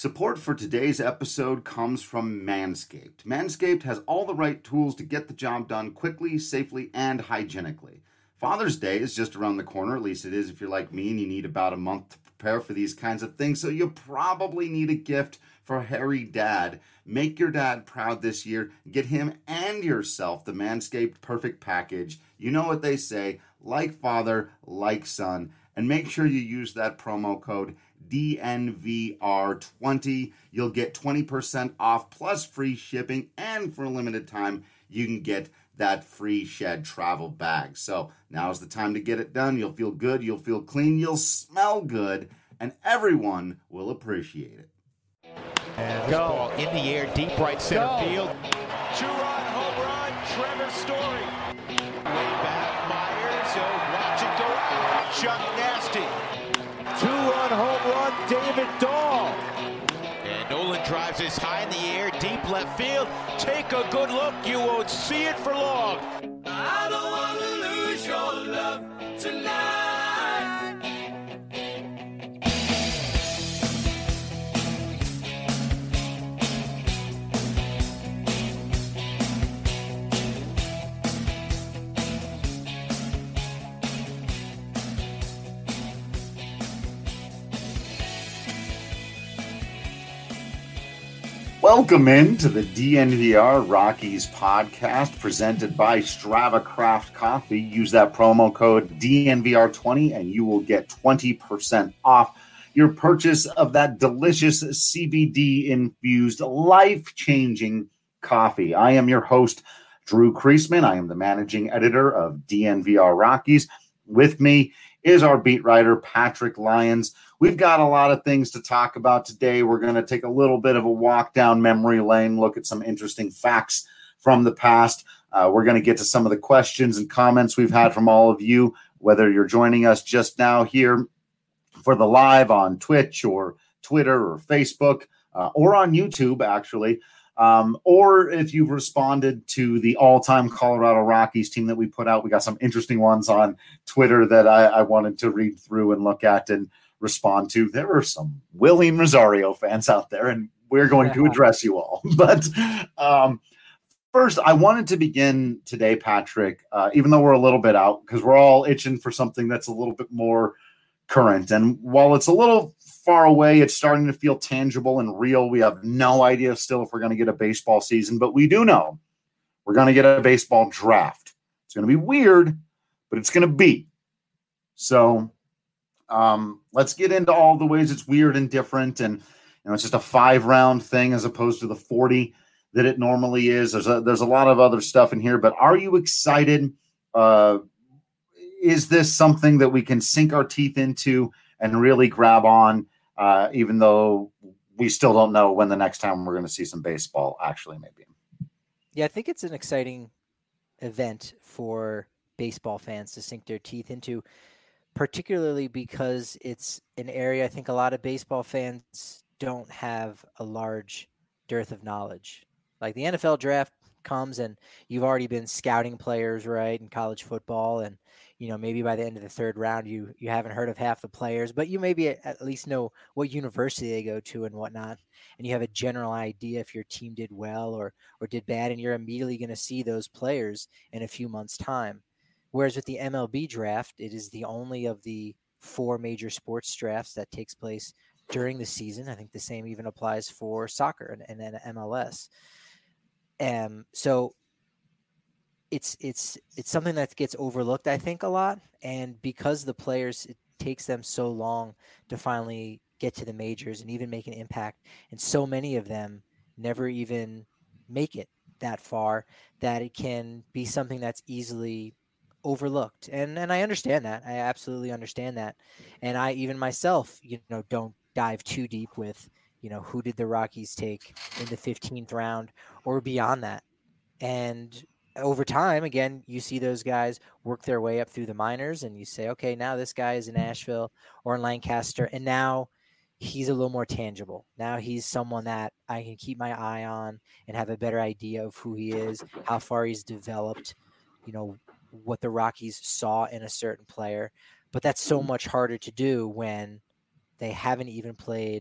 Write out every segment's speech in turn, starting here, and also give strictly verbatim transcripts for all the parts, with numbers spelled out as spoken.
Support for today's episode comes from Manscaped. Manscaped has all the right tools to get the job done quickly, safely, and hygienically. Father's Day is just around the corner, at least it is if you're like me and you need about a month to prepare for these kinds of things, so you probably need a gift for hairy dad. Make your dad proud this year. Get him and yourself the Manscaped Perfect Package. You know what they say, like father, like son. And make sure you use that promo code D N V R twenty. You'll get twenty percent off plus free shipping, and for a limited time, you can get that free Shed travel bag. So now's the time to get it done. You'll feel good, you'll feel clean, you'll smell good, and everyone will appreciate it. And this ball in the air, deep right center Go. field. Two-run home run, Trevor Story. Way back, Myers, oh, watch it go out. Chuck Nasty. Two-run home run, David Dahl. And Nolan drives this high in the air, deep left field. Take a good look, you won't see it for long. I don't want to lose your love tonight. Welcome in to the D N V R Rockies podcast presented by Strava Craft Coffee. Use that promo code D N V R twenty and you will get twenty percent off your purchase of that delicious C B D-infused, life-changing coffee. I am your host, Drew Kreisman. I am the managing editor of D N V R Rockies. With me is our beat writer, Patrick Lyons. We've got a lot of things to talk about today. We're going to take a little bit of a walk down memory lane, look at some interesting facts from the past. Uh, we're going to get to some of the questions and comments we've had from all of you, whether you're joining us just now here for the live on Twitch or Twitter or Facebook uh, or on YouTube, actually. Um, or if you've responded to the all-time Colorado Rockies team that we put out. We got some interesting ones on Twitter that I, I wanted to read through and look at and respond to. There were some William Rosario fans out there, and we're going to address you all. But um, first, I wanted to begin today, Patrick, uh, even though we're a little bit out, because we're all itching for something that's a little bit more current. And while it's a little far away, it's starting to feel tangible and real. We have no idea still if we're going to get a baseball season, but we do know we're going to get a baseball draft. It's going to be weird, but it's going to be. So um, let's get into all the ways it's weird and different. And, you know, it's just a five round thing as opposed to the forty that it normally is. There's a, there's a lot of other stuff in here, but are you excited? Uh, is this something that we can sink our teeth into and really grab on, uh, even though we still don't know when the next time we're going to see some baseball actually maybe? Yeah, I think it's an exciting event for baseball fans to sink their teeth into, particularly because it's an area I think a lot of baseball fans don't have a large dearth of knowledge. Like the N F L draft comes and you've already been scouting players, right, in college football, and you know, maybe by the end of the third round, you you haven't heard of half the players, but you maybe at least know what university they go to and whatnot, and you have a general idea if your team did well or or did bad, and you're immediately going to see those players in a few months' time. Whereas with the M L B draft, it is the only of the four major sports drafts that takes place during the season. I think the same even applies for soccer and, and then M L S. Um, so it's it's it's something that gets overlooked, I think, a lot. And because the players, it takes them so long to finally get to the majors and even make an impact, and so many of them never even make it that far, that it can be something that's easily overlooked. And and I understand that. I absolutely understand that. And I even myself, you know, don't dive too deep with, you know, who did the Rockies take in the fifteenth round or beyond that. And over time, again, you see those guys work their way up through the minors, and you say, okay, now this guy is in Nashville or in Lancaster, and now he's a little more tangible. Now he's someone that I can keep my eye on and have a better idea of who he is, how far he's developed, you know, what the Rockies saw in a certain player. But that's so much harder to do when they haven't even played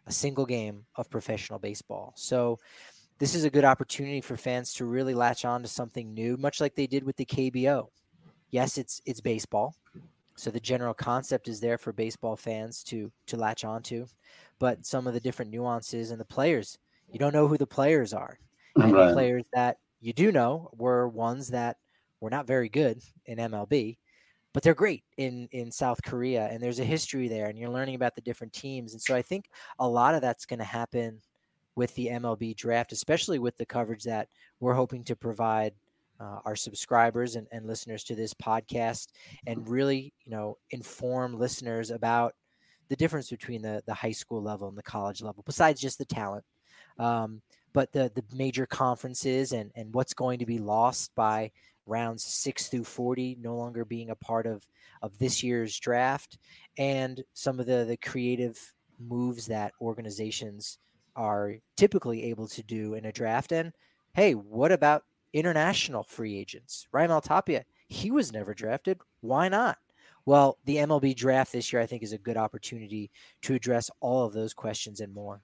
a single game of professional baseball. So this is a good opportunity for fans to really latch on to something new, much like they did with the K B O. Yes, it's it's baseball. So the general concept is there for baseball fans to to latch onto, but some of the different nuances and the players, you don't know who the players are. And Right. the players that you do know were ones that were not very good in M L B, but they're great in, in South Korea. And there's a history there, and you're learning about the different teams. And so I think a lot of that's going to happen with the M L B draft, especially with the coverage that we're hoping to provide uh, our subscribers and, and listeners to this podcast, and really, you know, inform listeners about the difference between the, the high school level and the college level, besides just the talent. Um, but the, the major conferences and, and what's going to be lost by rounds six through forty no longer being a part of, of this year's draft, and some of the, the creative moves that organizations are typically able to do in a draft. And hey, what about international free agents? Raimel Tapia, he was never drafted. Why not? Well, the M L B draft this year, I think, is a good opportunity to address all of those questions and more.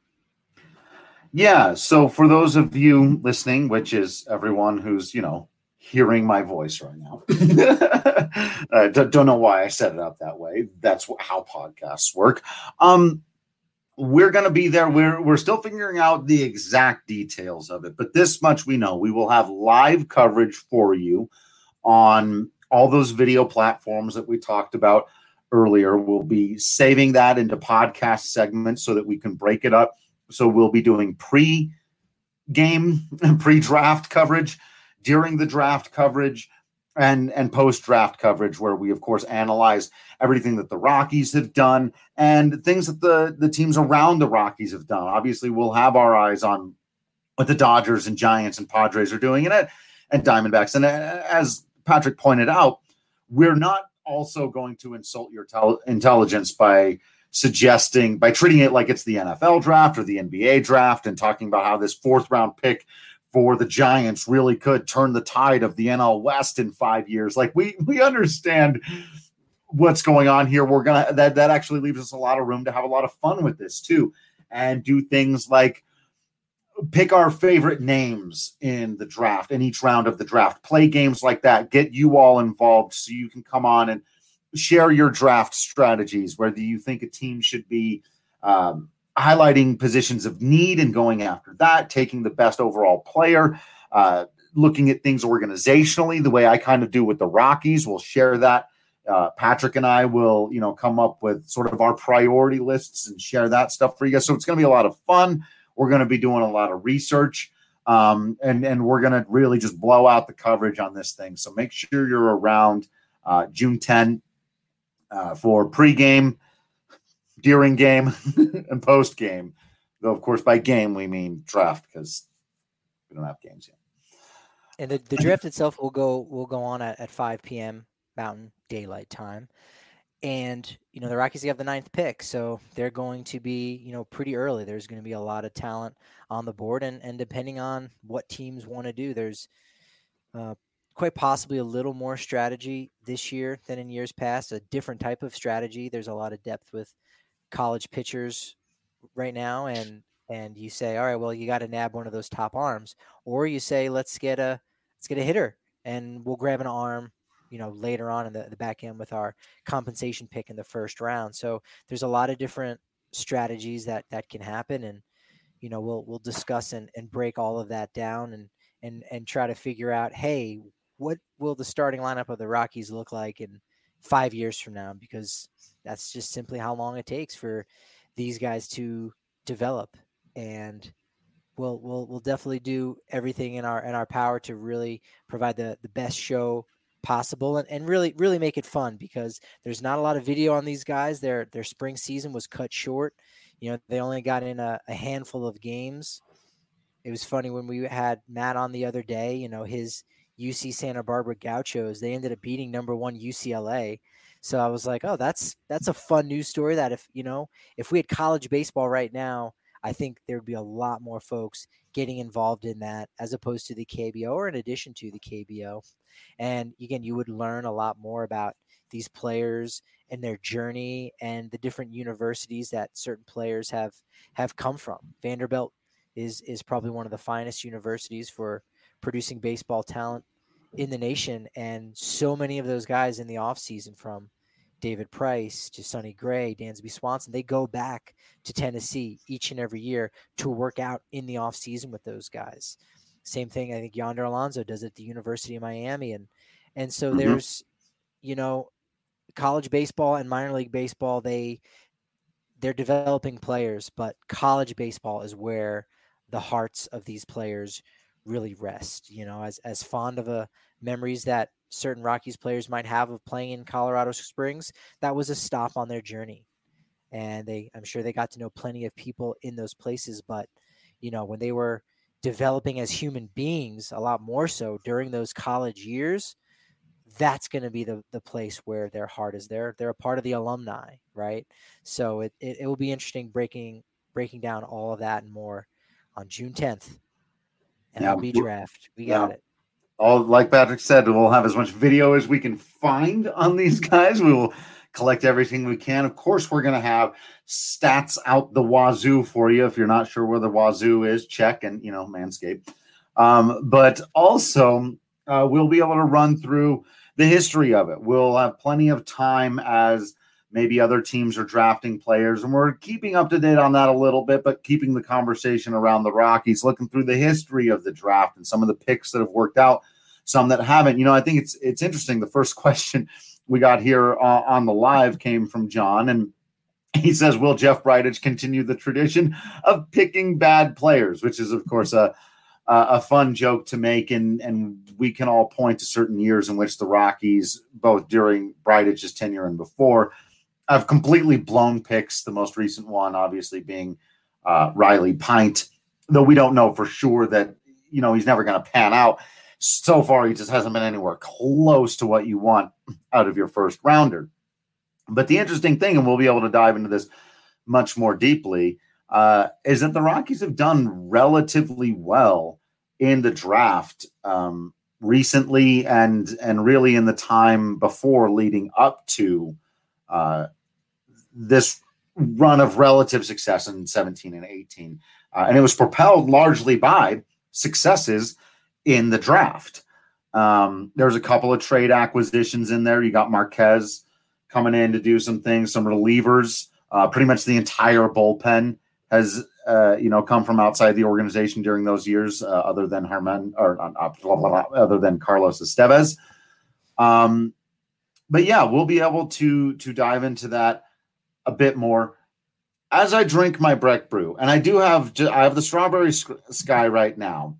Yeah. So for those of you listening, which is everyone who's, you know, hearing my voice right now, uh, don't, don't know why I set it up that way. That's how podcasts work. Um, we're going to be there. We're, we're still figuring out the exact details of it, but this much we know: we will have live coverage for you on all those video platforms that we talked about earlier. We'll be saving that into podcast segments so that we can break it up. So we'll be doing pre-game, pre-draft coverage, during the draft coverage, and, and post-draft coverage, where we, of course, analyze everything that the Rockies have done and things that the, the teams around the Rockies have done. Obviously, we'll have our eyes on what the Dodgers and Giants and Padres are doing, and, and Diamondbacks. And as Patrick pointed out, we're not also going to insult your tel- intelligence by suggesting, by treating it like it's the N F L draft or the N B A draft, and talking about how this fourth round pick for the Giants really could turn the tide of the N L West in five years. Like, we, we understand what's going on here. We're going to, that, that actually leaves us a lot of room to have a lot of fun with this too, and do things like pick our favorite names in the draft, in each round of the draft, play games like that, get you all involved so you can come on and share your draft strategies, whether you think a team should be um, highlighting positions of need and going after that, taking the best overall player, uh, looking at things organizationally, the way I kind of do with the Rockies. We'll share that. Uh, Patrick and I will, you know, come up with sort of our priority lists and share that stuff for you guys. So it's going to be a lot of fun. We're going to be doing a lot of research, um, and, and we're going to really just blow out the coverage on this thing. So make sure you're around uh, June tenth. Uh, for pregame, during game, and post game. Though, of course, by game we mean draft, because we don't have games yet. And the, the draft itself will go will go on at, at five p.m. Mountain Daylight Time. And, you know, the Rockies have the ninth pick, so they're going to be, you know, pretty early. There's going to be a lot of talent on the board, and, and depending on what teams want to do, there's uh, quite possibly a little more strategy this year than in years past, a different type of strategy. There's a lot of depth with college pitchers right now, and and you say, all right, well, you got to nab one of those top arms, or you say, let's get a let's get a hitter, and we'll grab an arm, you know, later on in the, the back end with our compensation pick in the first round. So there's a lot of different strategies that that can happen, and you know, we'll we'll discuss and, and break all of that down, and and and try to figure out, hey, what will the starting lineup of the Rockies look like in five years from now? Because that's just simply how long it takes for these guys to develop. And we'll we'll we'll definitely do everything in our in our power to really provide the, the best show possible, and, and really really make it fun, because there's not a lot of video on these guys. Their their spring season was cut short. You know, they only got in a, a handful of games. It was funny when we had Matt on the other day, you know, his U C Santa Barbara Gauchos, they ended up beating number one U C L A. So I was like, oh, that's that's a fun news story that if, you know, if we had college baseball right now, I think there would be a lot more folks getting involved in that as opposed to the K B O, or in addition to the K B O. And again, you would learn a lot more about these players and their journey and the different universities that certain players have have come from. Vanderbilt is is probably one of the finest universities for producing baseball talent in the nation, and so many of those guys in the offseason, from David Price to Sonny Gray, Dansby Swanson, they go back to Tennessee each and every year to work out in the offseason with those guys. Same thing, I think Yonder Alonso does at the University of Miami. And and so mm-hmm. there's, you know, college baseball and minor league baseball, they, they're developing players, but college baseball is where the hearts of these players really rest. You know, as, as fond of a memories that certain Rockies players might have of playing in Colorado Springs, that was a stop on their journey. And they, I'm sure they got to know plenty of people in those places, but you know, when they were developing as human beings, a lot more so during those college years, that's going to be the, the place where their heart is. They're, they're a part of the alumni, right? So it, it, it will be interesting breaking, breaking down all of that and more on June tenth. And yeah, L B draft. We got yeah. it. All, like Patrick said, we'll have as much video as we can find on these guys. We will collect everything we can. Of course, we're going to have stats out the wazoo for you. If you're not sure where the wazoo is, check and, you know, Manscaped. Um, but also, uh, we'll be able to run through the history of it. We'll have plenty of time as maybe other teams are drafting players, and we're keeping up to date on that a little bit, but keeping the conversation around the Rockies, looking through the history of the draft and some of the picks that have worked out, some that haven't. You know, I think it's it's interesting. The first question we got here uh, on the live came from John, and he says, will Jeff Bridich continue the tradition of picking bad players, which is, of course, a a fun joke to make, and, and we can all point to certain years in which the Rockies, both during Bridich's tenure and before, I've completely blown picks, the most recent one obviously being uh, Riley Pint, though we don't know for sure that, you know, he's never going to pan out. So far, he just hasn't been anywhere close to what you want out of your first rounder. But the interesting thing, and we'll be able to dive into this much more deeply, uh, is that the Rockies have done relatively well in the draft um, recently and, and really in the time before leading up to uh, this run of relative success in seventeen and eighteen. Uh, and it was propelled largely by successes in the draft. Um, there's a couple of trade acquisitions in there. You got Marquez coming in to do some things, some relievers. Uh, pretty much the entire bullpen has, uh, you know, come from outside the organization during those years, uh, other than Herman or uh, blah, blah, blah, other than Carlos Estevez. Um, but yeah, we'll be able to to dive into that a bit more as I drink my Breck Brew. And I do have I have the Strawberry Sky right now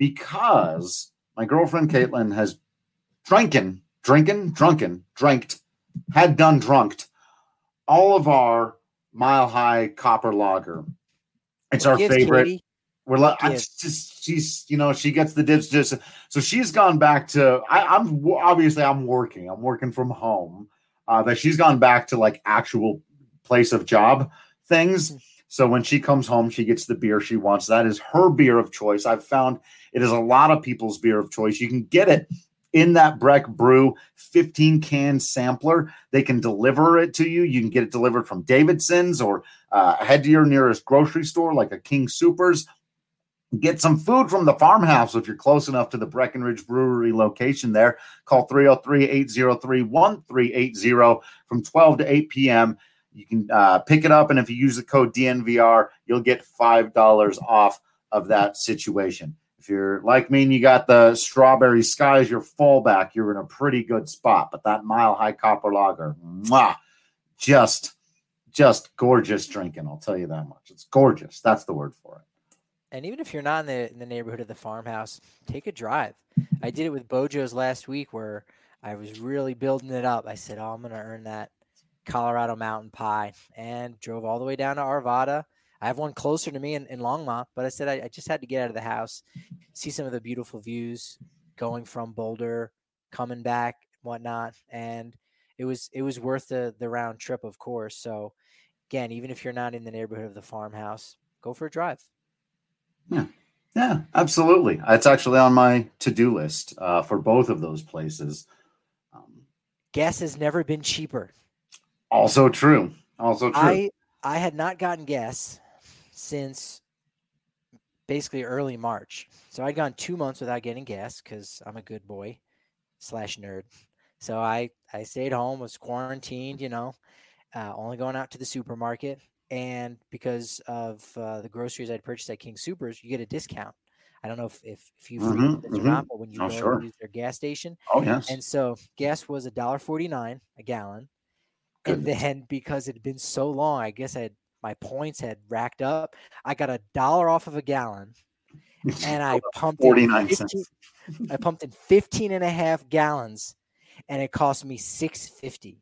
because my girlfriend Caitlin has drinking, drinking, drunken, dranked, had done drunked all of our Mile High Copper Lager. It's our favorite. Katie? We're like, just she's, you know, she gets the dips. Just so she's gone back to. I, I'm obviously I'm working. I'm working from home. Uh, but she's gone back to like actual place of job things. So when she comes home, she gets the beer she wants. That is her beer of choice. I've found it is a lot of people's beer of choice. You can get it in that Breck Brew fifteen can sampler. They can deliver it to you. You can get it delivered from Davidson's or uh, head to your nearest grocery store like a King Soopers. Get some food from the farmhouse if you're close enough to the Breckenridge Brewery location there. Call three oh three, eight oh three, one three eight oh from twelve to eight p.m. You can uh, pick it up, and if you use the code D N V R, you'll get five dollars off of that situation. If you're like me and you got the Strawberry Sky as your fallback, you're in a pretty good spot. But that Mile High Copper Lager, mwah, just, just gorgeous drinking, I'll tell you that much. It's gorgeous. That's the word for it. And even if you're not in the in the neighborhood of the farmhouse, take a drive. I did it with Bojo's last week where I was really building it up. I said, oh, I'm going to earn that Colorado Mountain Pie, and drove all the way down to Arvada. I have one closer to me in, in Longmont, but I said I, I just had to get out of the house, see some of the beautiful views going from Boulder, coming back, whatnot. And it was it was worth the, the round trip, of course. So, again, even if you're not in the neighborhood of the farmhouse, go for a drive. Yeah, yeah, absolutely. It's actually on my to-do list uh, for both of those places. Um, gas has never been cheaper. Also true. Also true. I I had not gotten gas since basically early March. So I'd gone two months without getting gas because I'm a good boy slash nerd. So I, I stayed home, was quarantined, you know, uh, only going out to the supermarket. And because of uh, the groceries I'd purchased at King Supers, you get a discount. I don't know if, if, if you Mm-hmm, frequent this mm-hmm. or not, but when you Oh, go sure. and use their gas station. Oh, yes. And so gas was one dollar forty-nine a gallon. And Goodness. then because it had been so long, I guess I had, my points had racked up. I got a dollar off of a gallon, and I pumped in forty-nine fifteen, cents. I pumped in fifteen and a half gallons, and it cost me six fifty.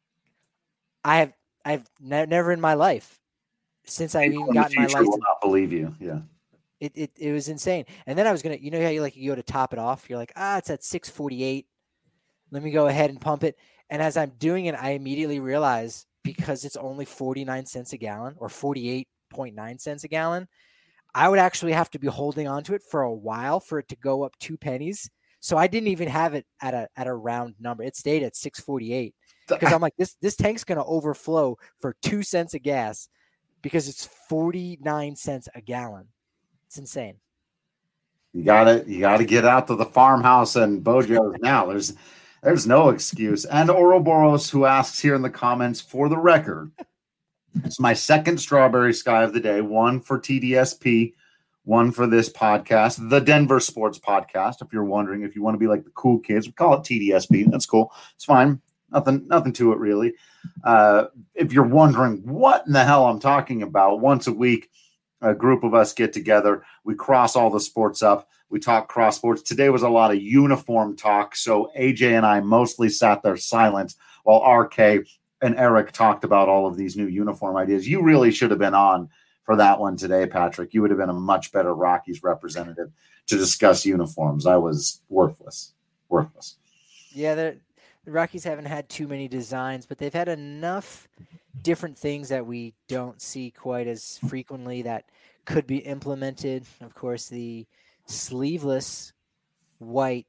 I have I've ne- never in my life since I've even People in the gotten my future will license. not believe you. Yeah. It, it it was insane. And then I was gonna, you know how you like you go to top it off. You're like, ah, it's at six forty-eight. Let me go ahead and pump it. And as I'm doing it, I immediately realize because it's only forty-nine cents a gallon or forty-eight point nine cents a gallon, I would actually have to be holding on to it for a while for it to go up two pennies. So I didn't even have it at a at a round number. It stayed at six forty-eight because I'm like, this this tank's gonna overflow for two cents a gas because it's forty-nine cents a gallon. It's insane. You gotta you gotta get out to the farmhouse and Bojo's now. There's there's no excuse. And Ouroboros, who asks here in the comments, for the record, it's my second strawberry sky of the day, one for T D S P, one for this podcast, the Denver Sports Podcast. If you're wondering, if you want to be like the cool kids, we call it T D S P. That's cool. It's fine. Nothing, nothing to it really. Uh, if you're wondering what in the hell I'm talking about, once a week, a group of us get together. We cross all the sports up. We talk cross sports. Today was a lot of uniform talk. So A J and I mostly sat there silent while R K and Eric talked about all of these new uniform ideas. You really should have been on for that one today, Patrick. You would have been a much better Rockies representative to discuss uniforms. I was worthless, worthless. Yeah, the Rockies haven't had too many designs, but they've had enough different things that we don't see quite as frequently that could be implemented. Of course, the sleeveless white,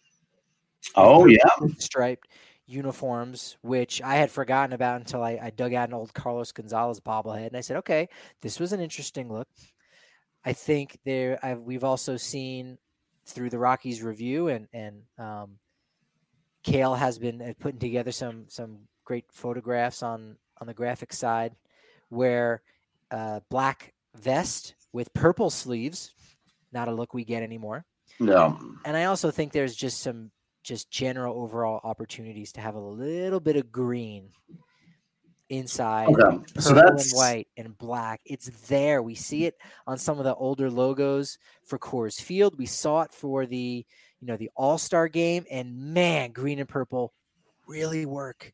oh yeah, striped uniforms, which I had forgotten about until I, I dug out an old Carlos Gonzalez bobblehead, and I said, "Okay, this was an interesting look." I think there, I've, we've also seen through the Rockies review, and and um, Kale has been putting together some some great photographs on on the graphic side, where uh, black vest with purple sleeves, not a look we get anymore. Yeah. And I also think there's just some just general overall opportunities to have a little bit of green inside, okay. purple So that's and white and black. It's there. We see it on some of the older logos for Coors Field. We saw it for the, you know, the All-Star game, and man, green and purple really work.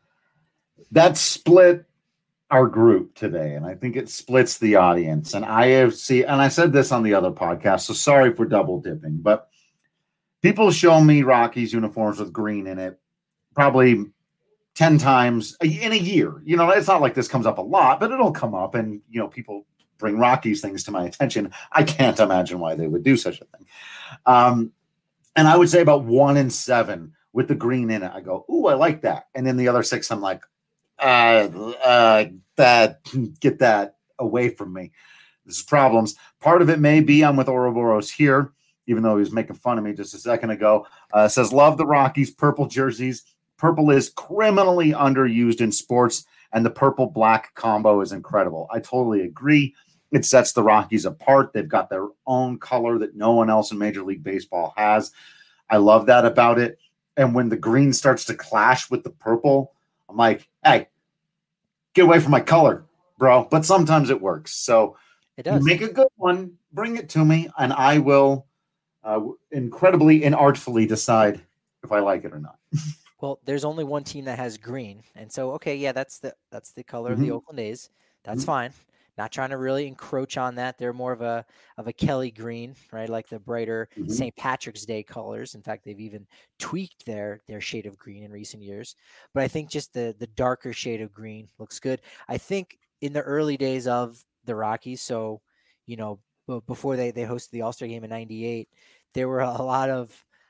That split our group today, and I think it splits the audience. And I have see, and I said this on the other podcast, so sorry for double dipping, but people show me Rockies uniforms with green in it probably ten times in a year. You know, it's not like this comes up a lot, but it'll come up, and you know, people bring Rockies things to my attention. I can't imagine why they would do such a thing. Um, and I would say about one in seven with the green in it, I go, ooh, I like that. And then the other six, I'm like, uh, uh, that get that away from me. This is problems. Part of it may be I'm with Ouroboros here, even though he was making fun of me just a second ago. Uh, says, love the Rockies purple jerseys. Purple is criminally underused in sports, and the purple-black combo is incredible. I totally agree. It sets the Rockies apart. They've got their own color that no one else in Major League Baseball has. I love that about it. And when the green starts to clash with the purple, I'm like, hey, get away from my color, bro. But sometimes it works. So it does. Make a good one, bring it to me, and I will uh, incredibly and artfully decide if I like it or not. Well, there's only one team that has green, and so okay, yeah, that's the that's the color Mm-hmm. of the Oakland A's. That's Mm-hmm. fine. Not trying to really encroach on that. They're more of a of a Kelly green, right? Like the brighter Mm-hmm. Saint Patrick's Day colors. In fact, they've even tweaked their their shade of green in recent years. But I think just the the darker shade of green looks good. I think in the early days of the Rockies, so you know, b- before they they hosted the All-Star game in ninety-eight, there were a lot of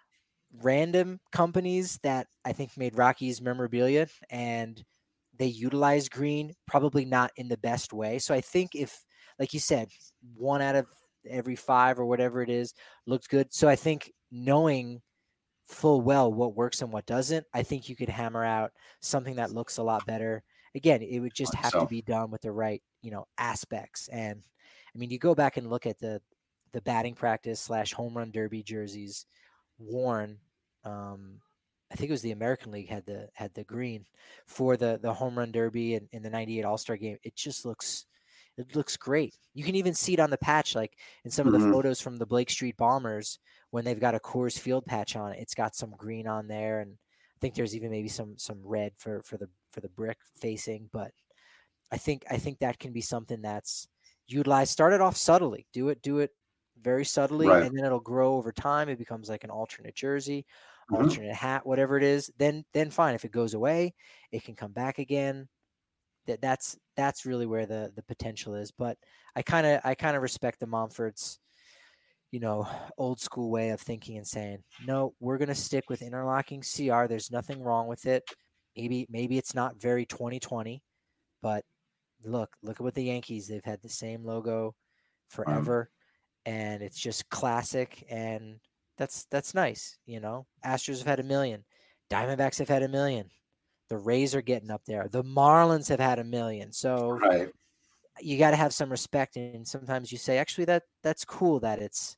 random companies that I think made Rockies memorabilia, and they utilize green, probably not in the best way. So I think if, like you said, one out of every five or whatever it is looks good. So I think knowing full well what works and what doesn't, I think you could hammer out something that looks a lot better. Again, it would just have so. to be done with the right, you know, aspects. And I mean, you go back and look at the the batting practice slash home run derby jerseys worn. Um, I think it was the American League had the had the green for the the home run derby in, in the ninety-eight All-Star game. It just looks it looks great. You can even see it on the patch, like in some of the Mm-hmm. photos from the Blake Street Bombers when they've got a Coors Field patch on it. It's got some green on there, and I think there's even maybe some some red for for the for the brick facing. But I think I think that can be something that's utilized. Start it off subtly. Do it do it very subtly, Right. and then it'll grow over time. It becomes like an alternate jersey, Mm-hmm. alternate hat, whatever it is. Then then fine. If it goes away, it can come back again. That that's that's really where the the potential is. But I kind of I kind of respect the Montfort's, you know, old school way of thinking and saying, no, we're going to stick with interlocking C R. There's nothing wrong with it. Maybe maybe it's not very twenty twenty, but look, look at what the Yankees, they've had the same logo forever, um, and it's just classic, and that's that's nice, you know. Astros have had a million. Diamondbacks have had a million. The Rays are getting up there. The Marlins have had a million. So Right. you got to have some respect, and sometimes you say, actually, that that's cool that it's,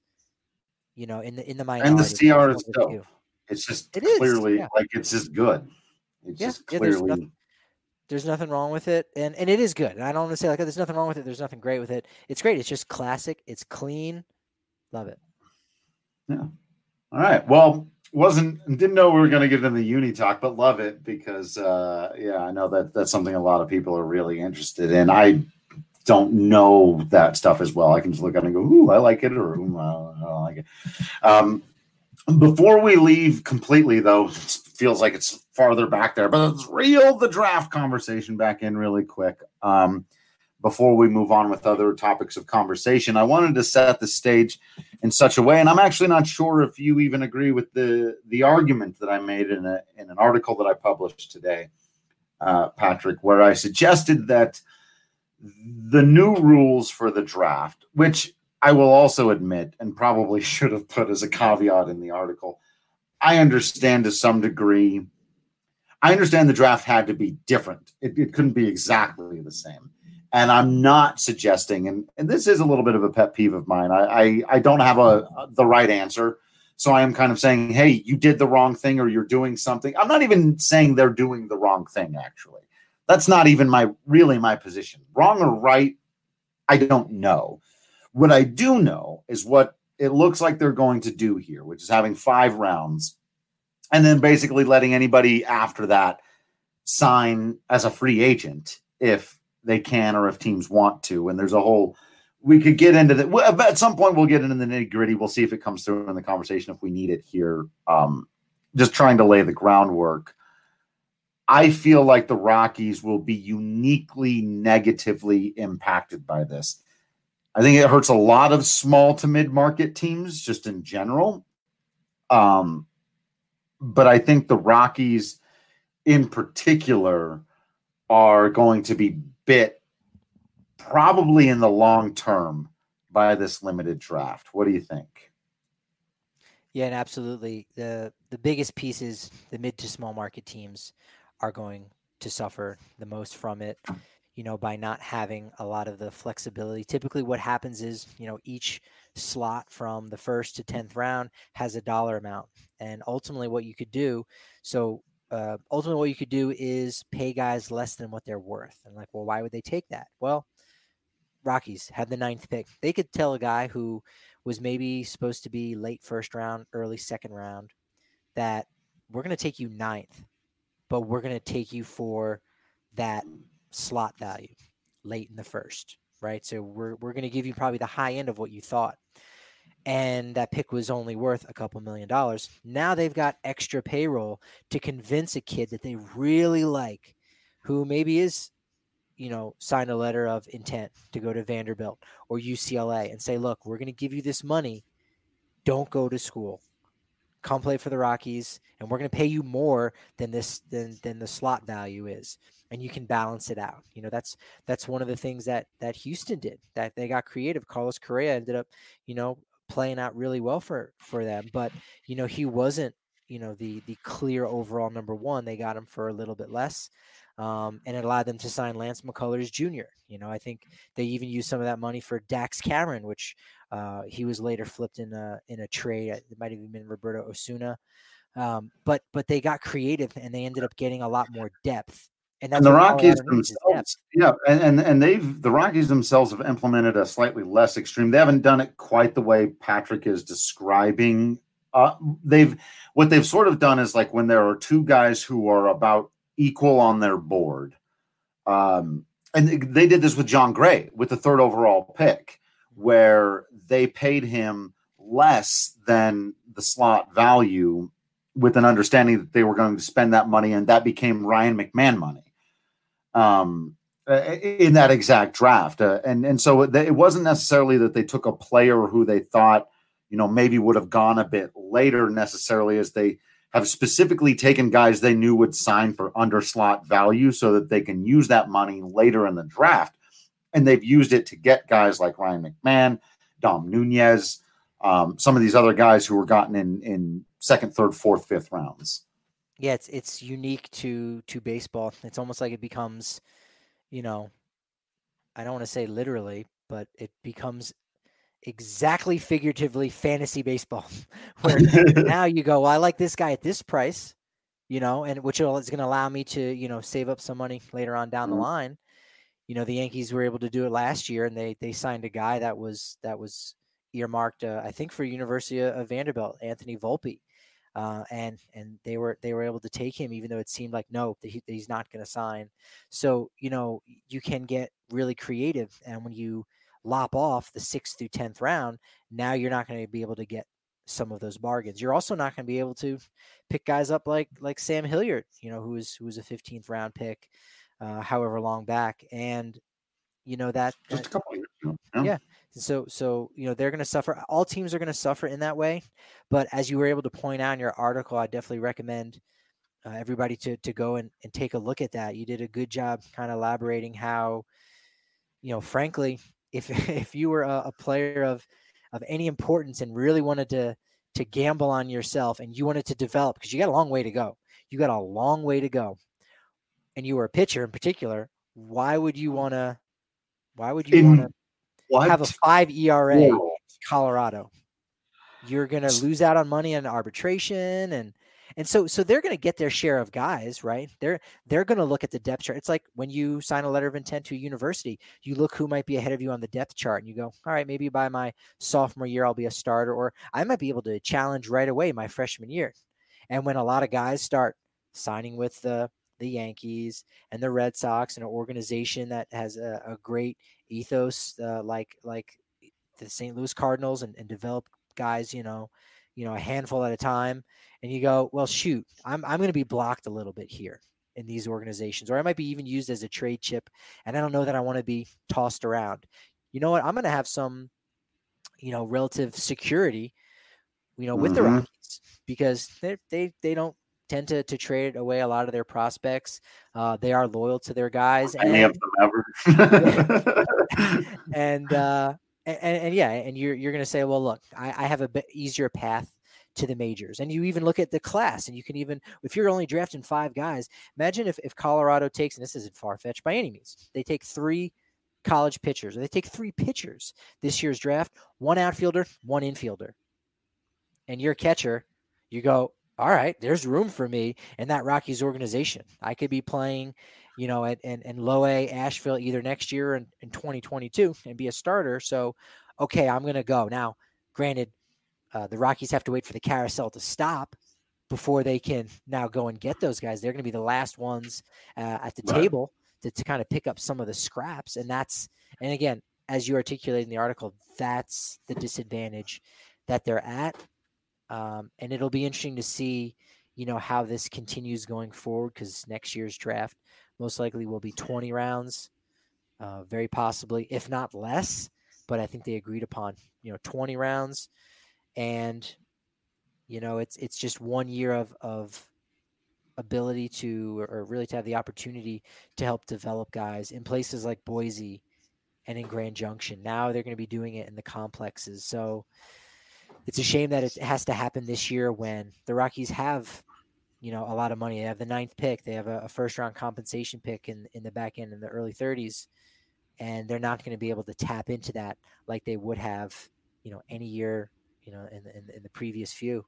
you know, in the in the minority. And the C R is dope. dope. It's just It is, clearly yeah. like it's just good. It's Yeah, just yeah, there's clearly. nothing, there's nothing wrong with it, and and it is good. And I don't want to say like, oh, there's nothing wrong with it. There's nothing great with it. It's great. It's just classic. It's clean. Love it. Yeah. All right. Well, wasn't didn't know we were going to get into the uni talk, but love it because uh, yeah, I know that that's something a lot of people are really interested in. I don't know that stuff as well. I can just look at it and go, "Ooh, I like it," or "Ooh, I don't like it." Um, before we leave completely, though, it feels like it's farther back there, but let's reel the draft conversation back in really quick. Um, before we move on with other topics of conversation, I wanted to set the stage in such a way, and I'm actually not sure if you even agree with the the argument that I made in a in an article that I published today, uh, Patrick, where I suggested that the new rules for the draft, which I will also admit and probably should have put as a caveat in the article, I understand to some degree. I understand the draft had to be different. It, it couldn't be exactly the same. And I'm not suggesting, and, and this is a little bit of a pet peeve of mine. I, I, I don't have a, a the right answer. So I am kind of saying, hey, you did the wrong thing or you're doing something. I'm not even saying they're doing the wrong thing, actually. That's not even my really my position. Wrong or right, I don't know. What I do know is what it looks like they're going to do here, which is having five rounds and then basically letting anybody after that sign as a free agent if they can or if teams want to. And there's a whole – we could get into that. At some point, we'll get into the nitty-gritty. We'll see if it comes through in the conversation if we need it here. Um, just trying to lay the groundwork. I feel like the Rockies will be uniquely negatively impacted by this. I think it hurts a lot of small to mid-market teams just in general. Um, but I think the Rockies in particular are going to be bit probably in the long term by this limited draft. What do you think? Yeah, and absolutely. The the biggest pieces, the mid to small market teams are going to suffer the most from it, you know, by not having a lot of the flexibility. Typically what happens is, you know, each slot from the first to tenth round has a dollar amount. And ultimately what you could do, so uh, ultimately what you could do is pay guys less than what they're worth. And like, well, why would they take that? Well, Rockies had the ninth pick. They could tell a guy who was maybe supposed to be late first round, early second round, that we're going to take you ninth, but we're going to take you for that slot value late in the first, right? So we're we're going to give you probably the high end of what you thought. And that pick was only worth a couple million dollars. Now they've got extra payroll to convince a kid that they really like, who maybe is, you know, signed a letter of intent to go to Vanderbilt or U C L A and say, look, we're going to give you this money. Don't go to school. come play for the Rockies, and we're going to pay you more than this than than the slot value is, and you can balance it out. You know, that's that's one of the things that that Houston did. That they got creative. Carlos Correa ended up, you know, playing out really well for for them, but you know, he wasn't, you know, the the clear overall number one. They got him for a little bit less. Um, and it allowed them to sign Lance McCullers Junior You know, I think they even used some of that money for Dax Cameron, which uh, he was later flipped in a in a trade. It might have even been Roberto Osuna. Um, but but they got creative and they ended up getting a lot more depth. And, that's and the Rockies Colorado themselves, yeah, and, and and they've the Rockies themselves have implemented a slightly less extreme. They haven't done it quite the way Patrick is describing. Uh, they've what they've sort of done is like when there are two guys who are about equal on their board. Um, and they did this with John Gray with the third overall pick, where they paid him less than the slot value with an understanding that they were going to spend that money, and that became Ryan McMahon money um, in that exact draft. Uh, and, and so it, it wasn't necessarily that they took a player who they thought, you know, maybe would have gone a bit later necessarily, as they have specifically taken guys they knew would sign for under slot value so that they can use that money later in the draft. And they've used it to get guys like Ryan McMahon, Dom Nunez, um, some of these other guys who were gotten in, in second, third, fourth, fifth rounds. Yeah, it's it's unique to to baseball. It's almost like it becomes, you know, I don't want to say literally, but it becomes exactly figuratively fantasy baseball, where now you go, well, I like this guy at this price, you know, and which is going to allow me to, you know, save up some money later on down mm-hmm. the line. You know, the Yankees were able to do it last year, and they they signed a guy that was that was earmarked, uh, I think, for University of Vanderbilt, Anthony Volpe, uh, and and they were they were able to take him, even though it seemed like no, that, he, that he's not going to sign. So you know, you can get really creative, and when you lop off the sixth through tenth round, now you're not going to be able to get some of those bargains. You're also not going to be able to pick guys up like like Sam Hilliard, you know, who was who was a fifteenth round pick, uh, however long back, and you know that just a couple of years ago. Yeah. yeah. So so you know they're going to suffer. All teams are going to suffer in that way. But as you were able to point out in your article, I definitely recommend uh, everybody to to go and, and take a look at that. You did a good job kind of elaborating how, you know, frankly, if if you were a, a player of of any importance and really wanted to to gamble on yourself and you wanted to develop, because you got a long way to go. You got a long way to go. And you were a pitcher in particular, why would you want to why would you want to have a five E R A in Colorado? You're going to lose out on money on arbitration, and And so, so they're going to get their share of guys, right? They're they're going to look at the depth chart. It's like when you sign a letter of intent to a university, you look who might be ahead of you on the depth chart, and you go, all right, maybe by my sophomore year I'll be a starter, or I might be able to challenge right away my freshman year. And when a lot of guys start signing with the the Yankees and the Red Sox, and an organization that has a, a great ethos, uh, like like the Saint Louis Cardinals, and, and develop guys, you know, you know, a handful at a time. And you go, well, shoot, I'm I'm going to be blocked a little bit here in these organizations, or I might be even used as a trade chip, and I don't know that I want to be tossed around. You know what? I'm going to have some, you know, relative security, you know, with mm-hmm. the Rockies, because they they they don't tend to to trade away a lot of their prospects. Uh, they are loyal to their guys. Any of them ever. and uh, and, and yeah, and you're you're going to say, well, look, I, I have a bit easier path to the majors. And you even look at the class, and you can even, if you're only drafting five guys, imagine if, if Colorado takes, and this isn't far-fetched by any means, they take three college pitchers, or they take three pitchers this year's draft, one outfielder, one infielder. And your catcher, you go, all right, there's room for me in that Rockies organization. I could be playing, you know, at in, in low A Asheville either next year or in, in twenty twenty-two and be a starter. So, okay, I'm going to go. Now, granted, Uh, the Rockies have to wait for the carousel to stop before they can now go and get those guys. They're going to be the last ones uh, at the right. table to, to kind of pick up some of the scraps. And that's, and again, as you articulate in the article, that's the disadvantage that they're at. Um, and it'll be interesting to see, you know, how this continues going forward, because next year's draft most likely will be twenty rounds, uh, very possibly, if not less. But I think they agreed upon, you know, twenty rounds. And, You know, it's it's just one year of of ability to, or really to have the opportunity to help develop guys in places like Boise and in Grand Junction. Now they're going to be doing it in the complexes. So it's a shame that it has to happen this year when the Rockies have, you know, a lot of money. They have the ninth pick. They have a, a first round compensation pick in, in the back end in the early thirties. And they're not going to be able to tap into that like they would have, you know, any year, you know, in, in, in the previous few.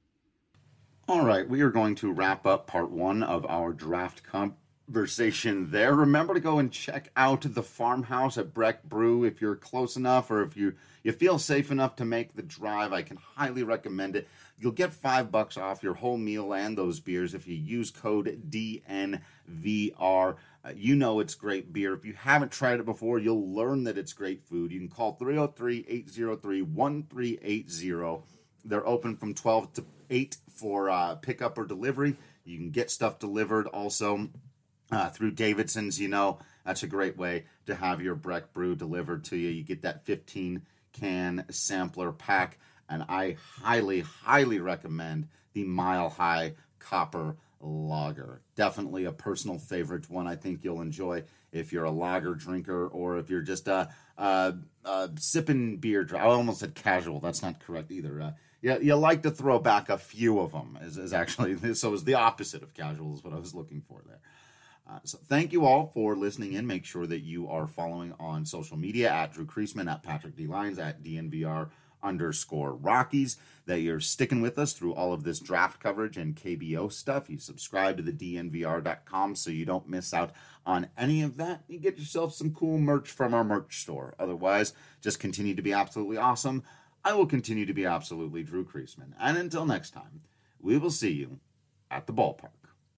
All right, we are going to wrap up part one of our draft conversation there. Remember to go and check out the farmhouse at Breck Brew if you're close enough, or if you, you feel safe enough to make the drive. I can highly recommend it. You'll get five bucks off your whole meal and those beers if you use code D N V R. Uh, you know it's great beer. If you haven't tried it before, you'll learn that it's great food. You can call three oh three, eight oh three, one three eight oh. They're open from twelve to eight for uh, pickup or delivery. You can get stuff delivered also uh, through Davidson's. You know, that's a great way to have your Breck Brew delivered to you. You get that fifteen can sampler pack, and I highly, highly recommend the Mile High Copper Lager. Definitely a personal favorite one. I think you'll enjoy if you're a lager drinker, or if you're just a uh, uh, uh, sipping beer. I almost said casual. That's not correct either. Uh, Yeah, you like to throw back a few of them, is, is actually, so it's the opposite of casual is what I was looking for there. Uh, so thank you all for listening in. Make sure that you are following on social media at Drew Creasman, at Patrick D. Lyons, at D N V R underscore Rockies, that you're sticking with us through all of this draft coverage and K B O stuff. You subscribe to the D N V R dot com so you don't miss out on any of that. You get yourself some cool merch from our merch store. Otherwise, just continue to be absolutely awesome. I will continue to be absolutely Drew Creasman. And until next time, we will see you at the ballpark.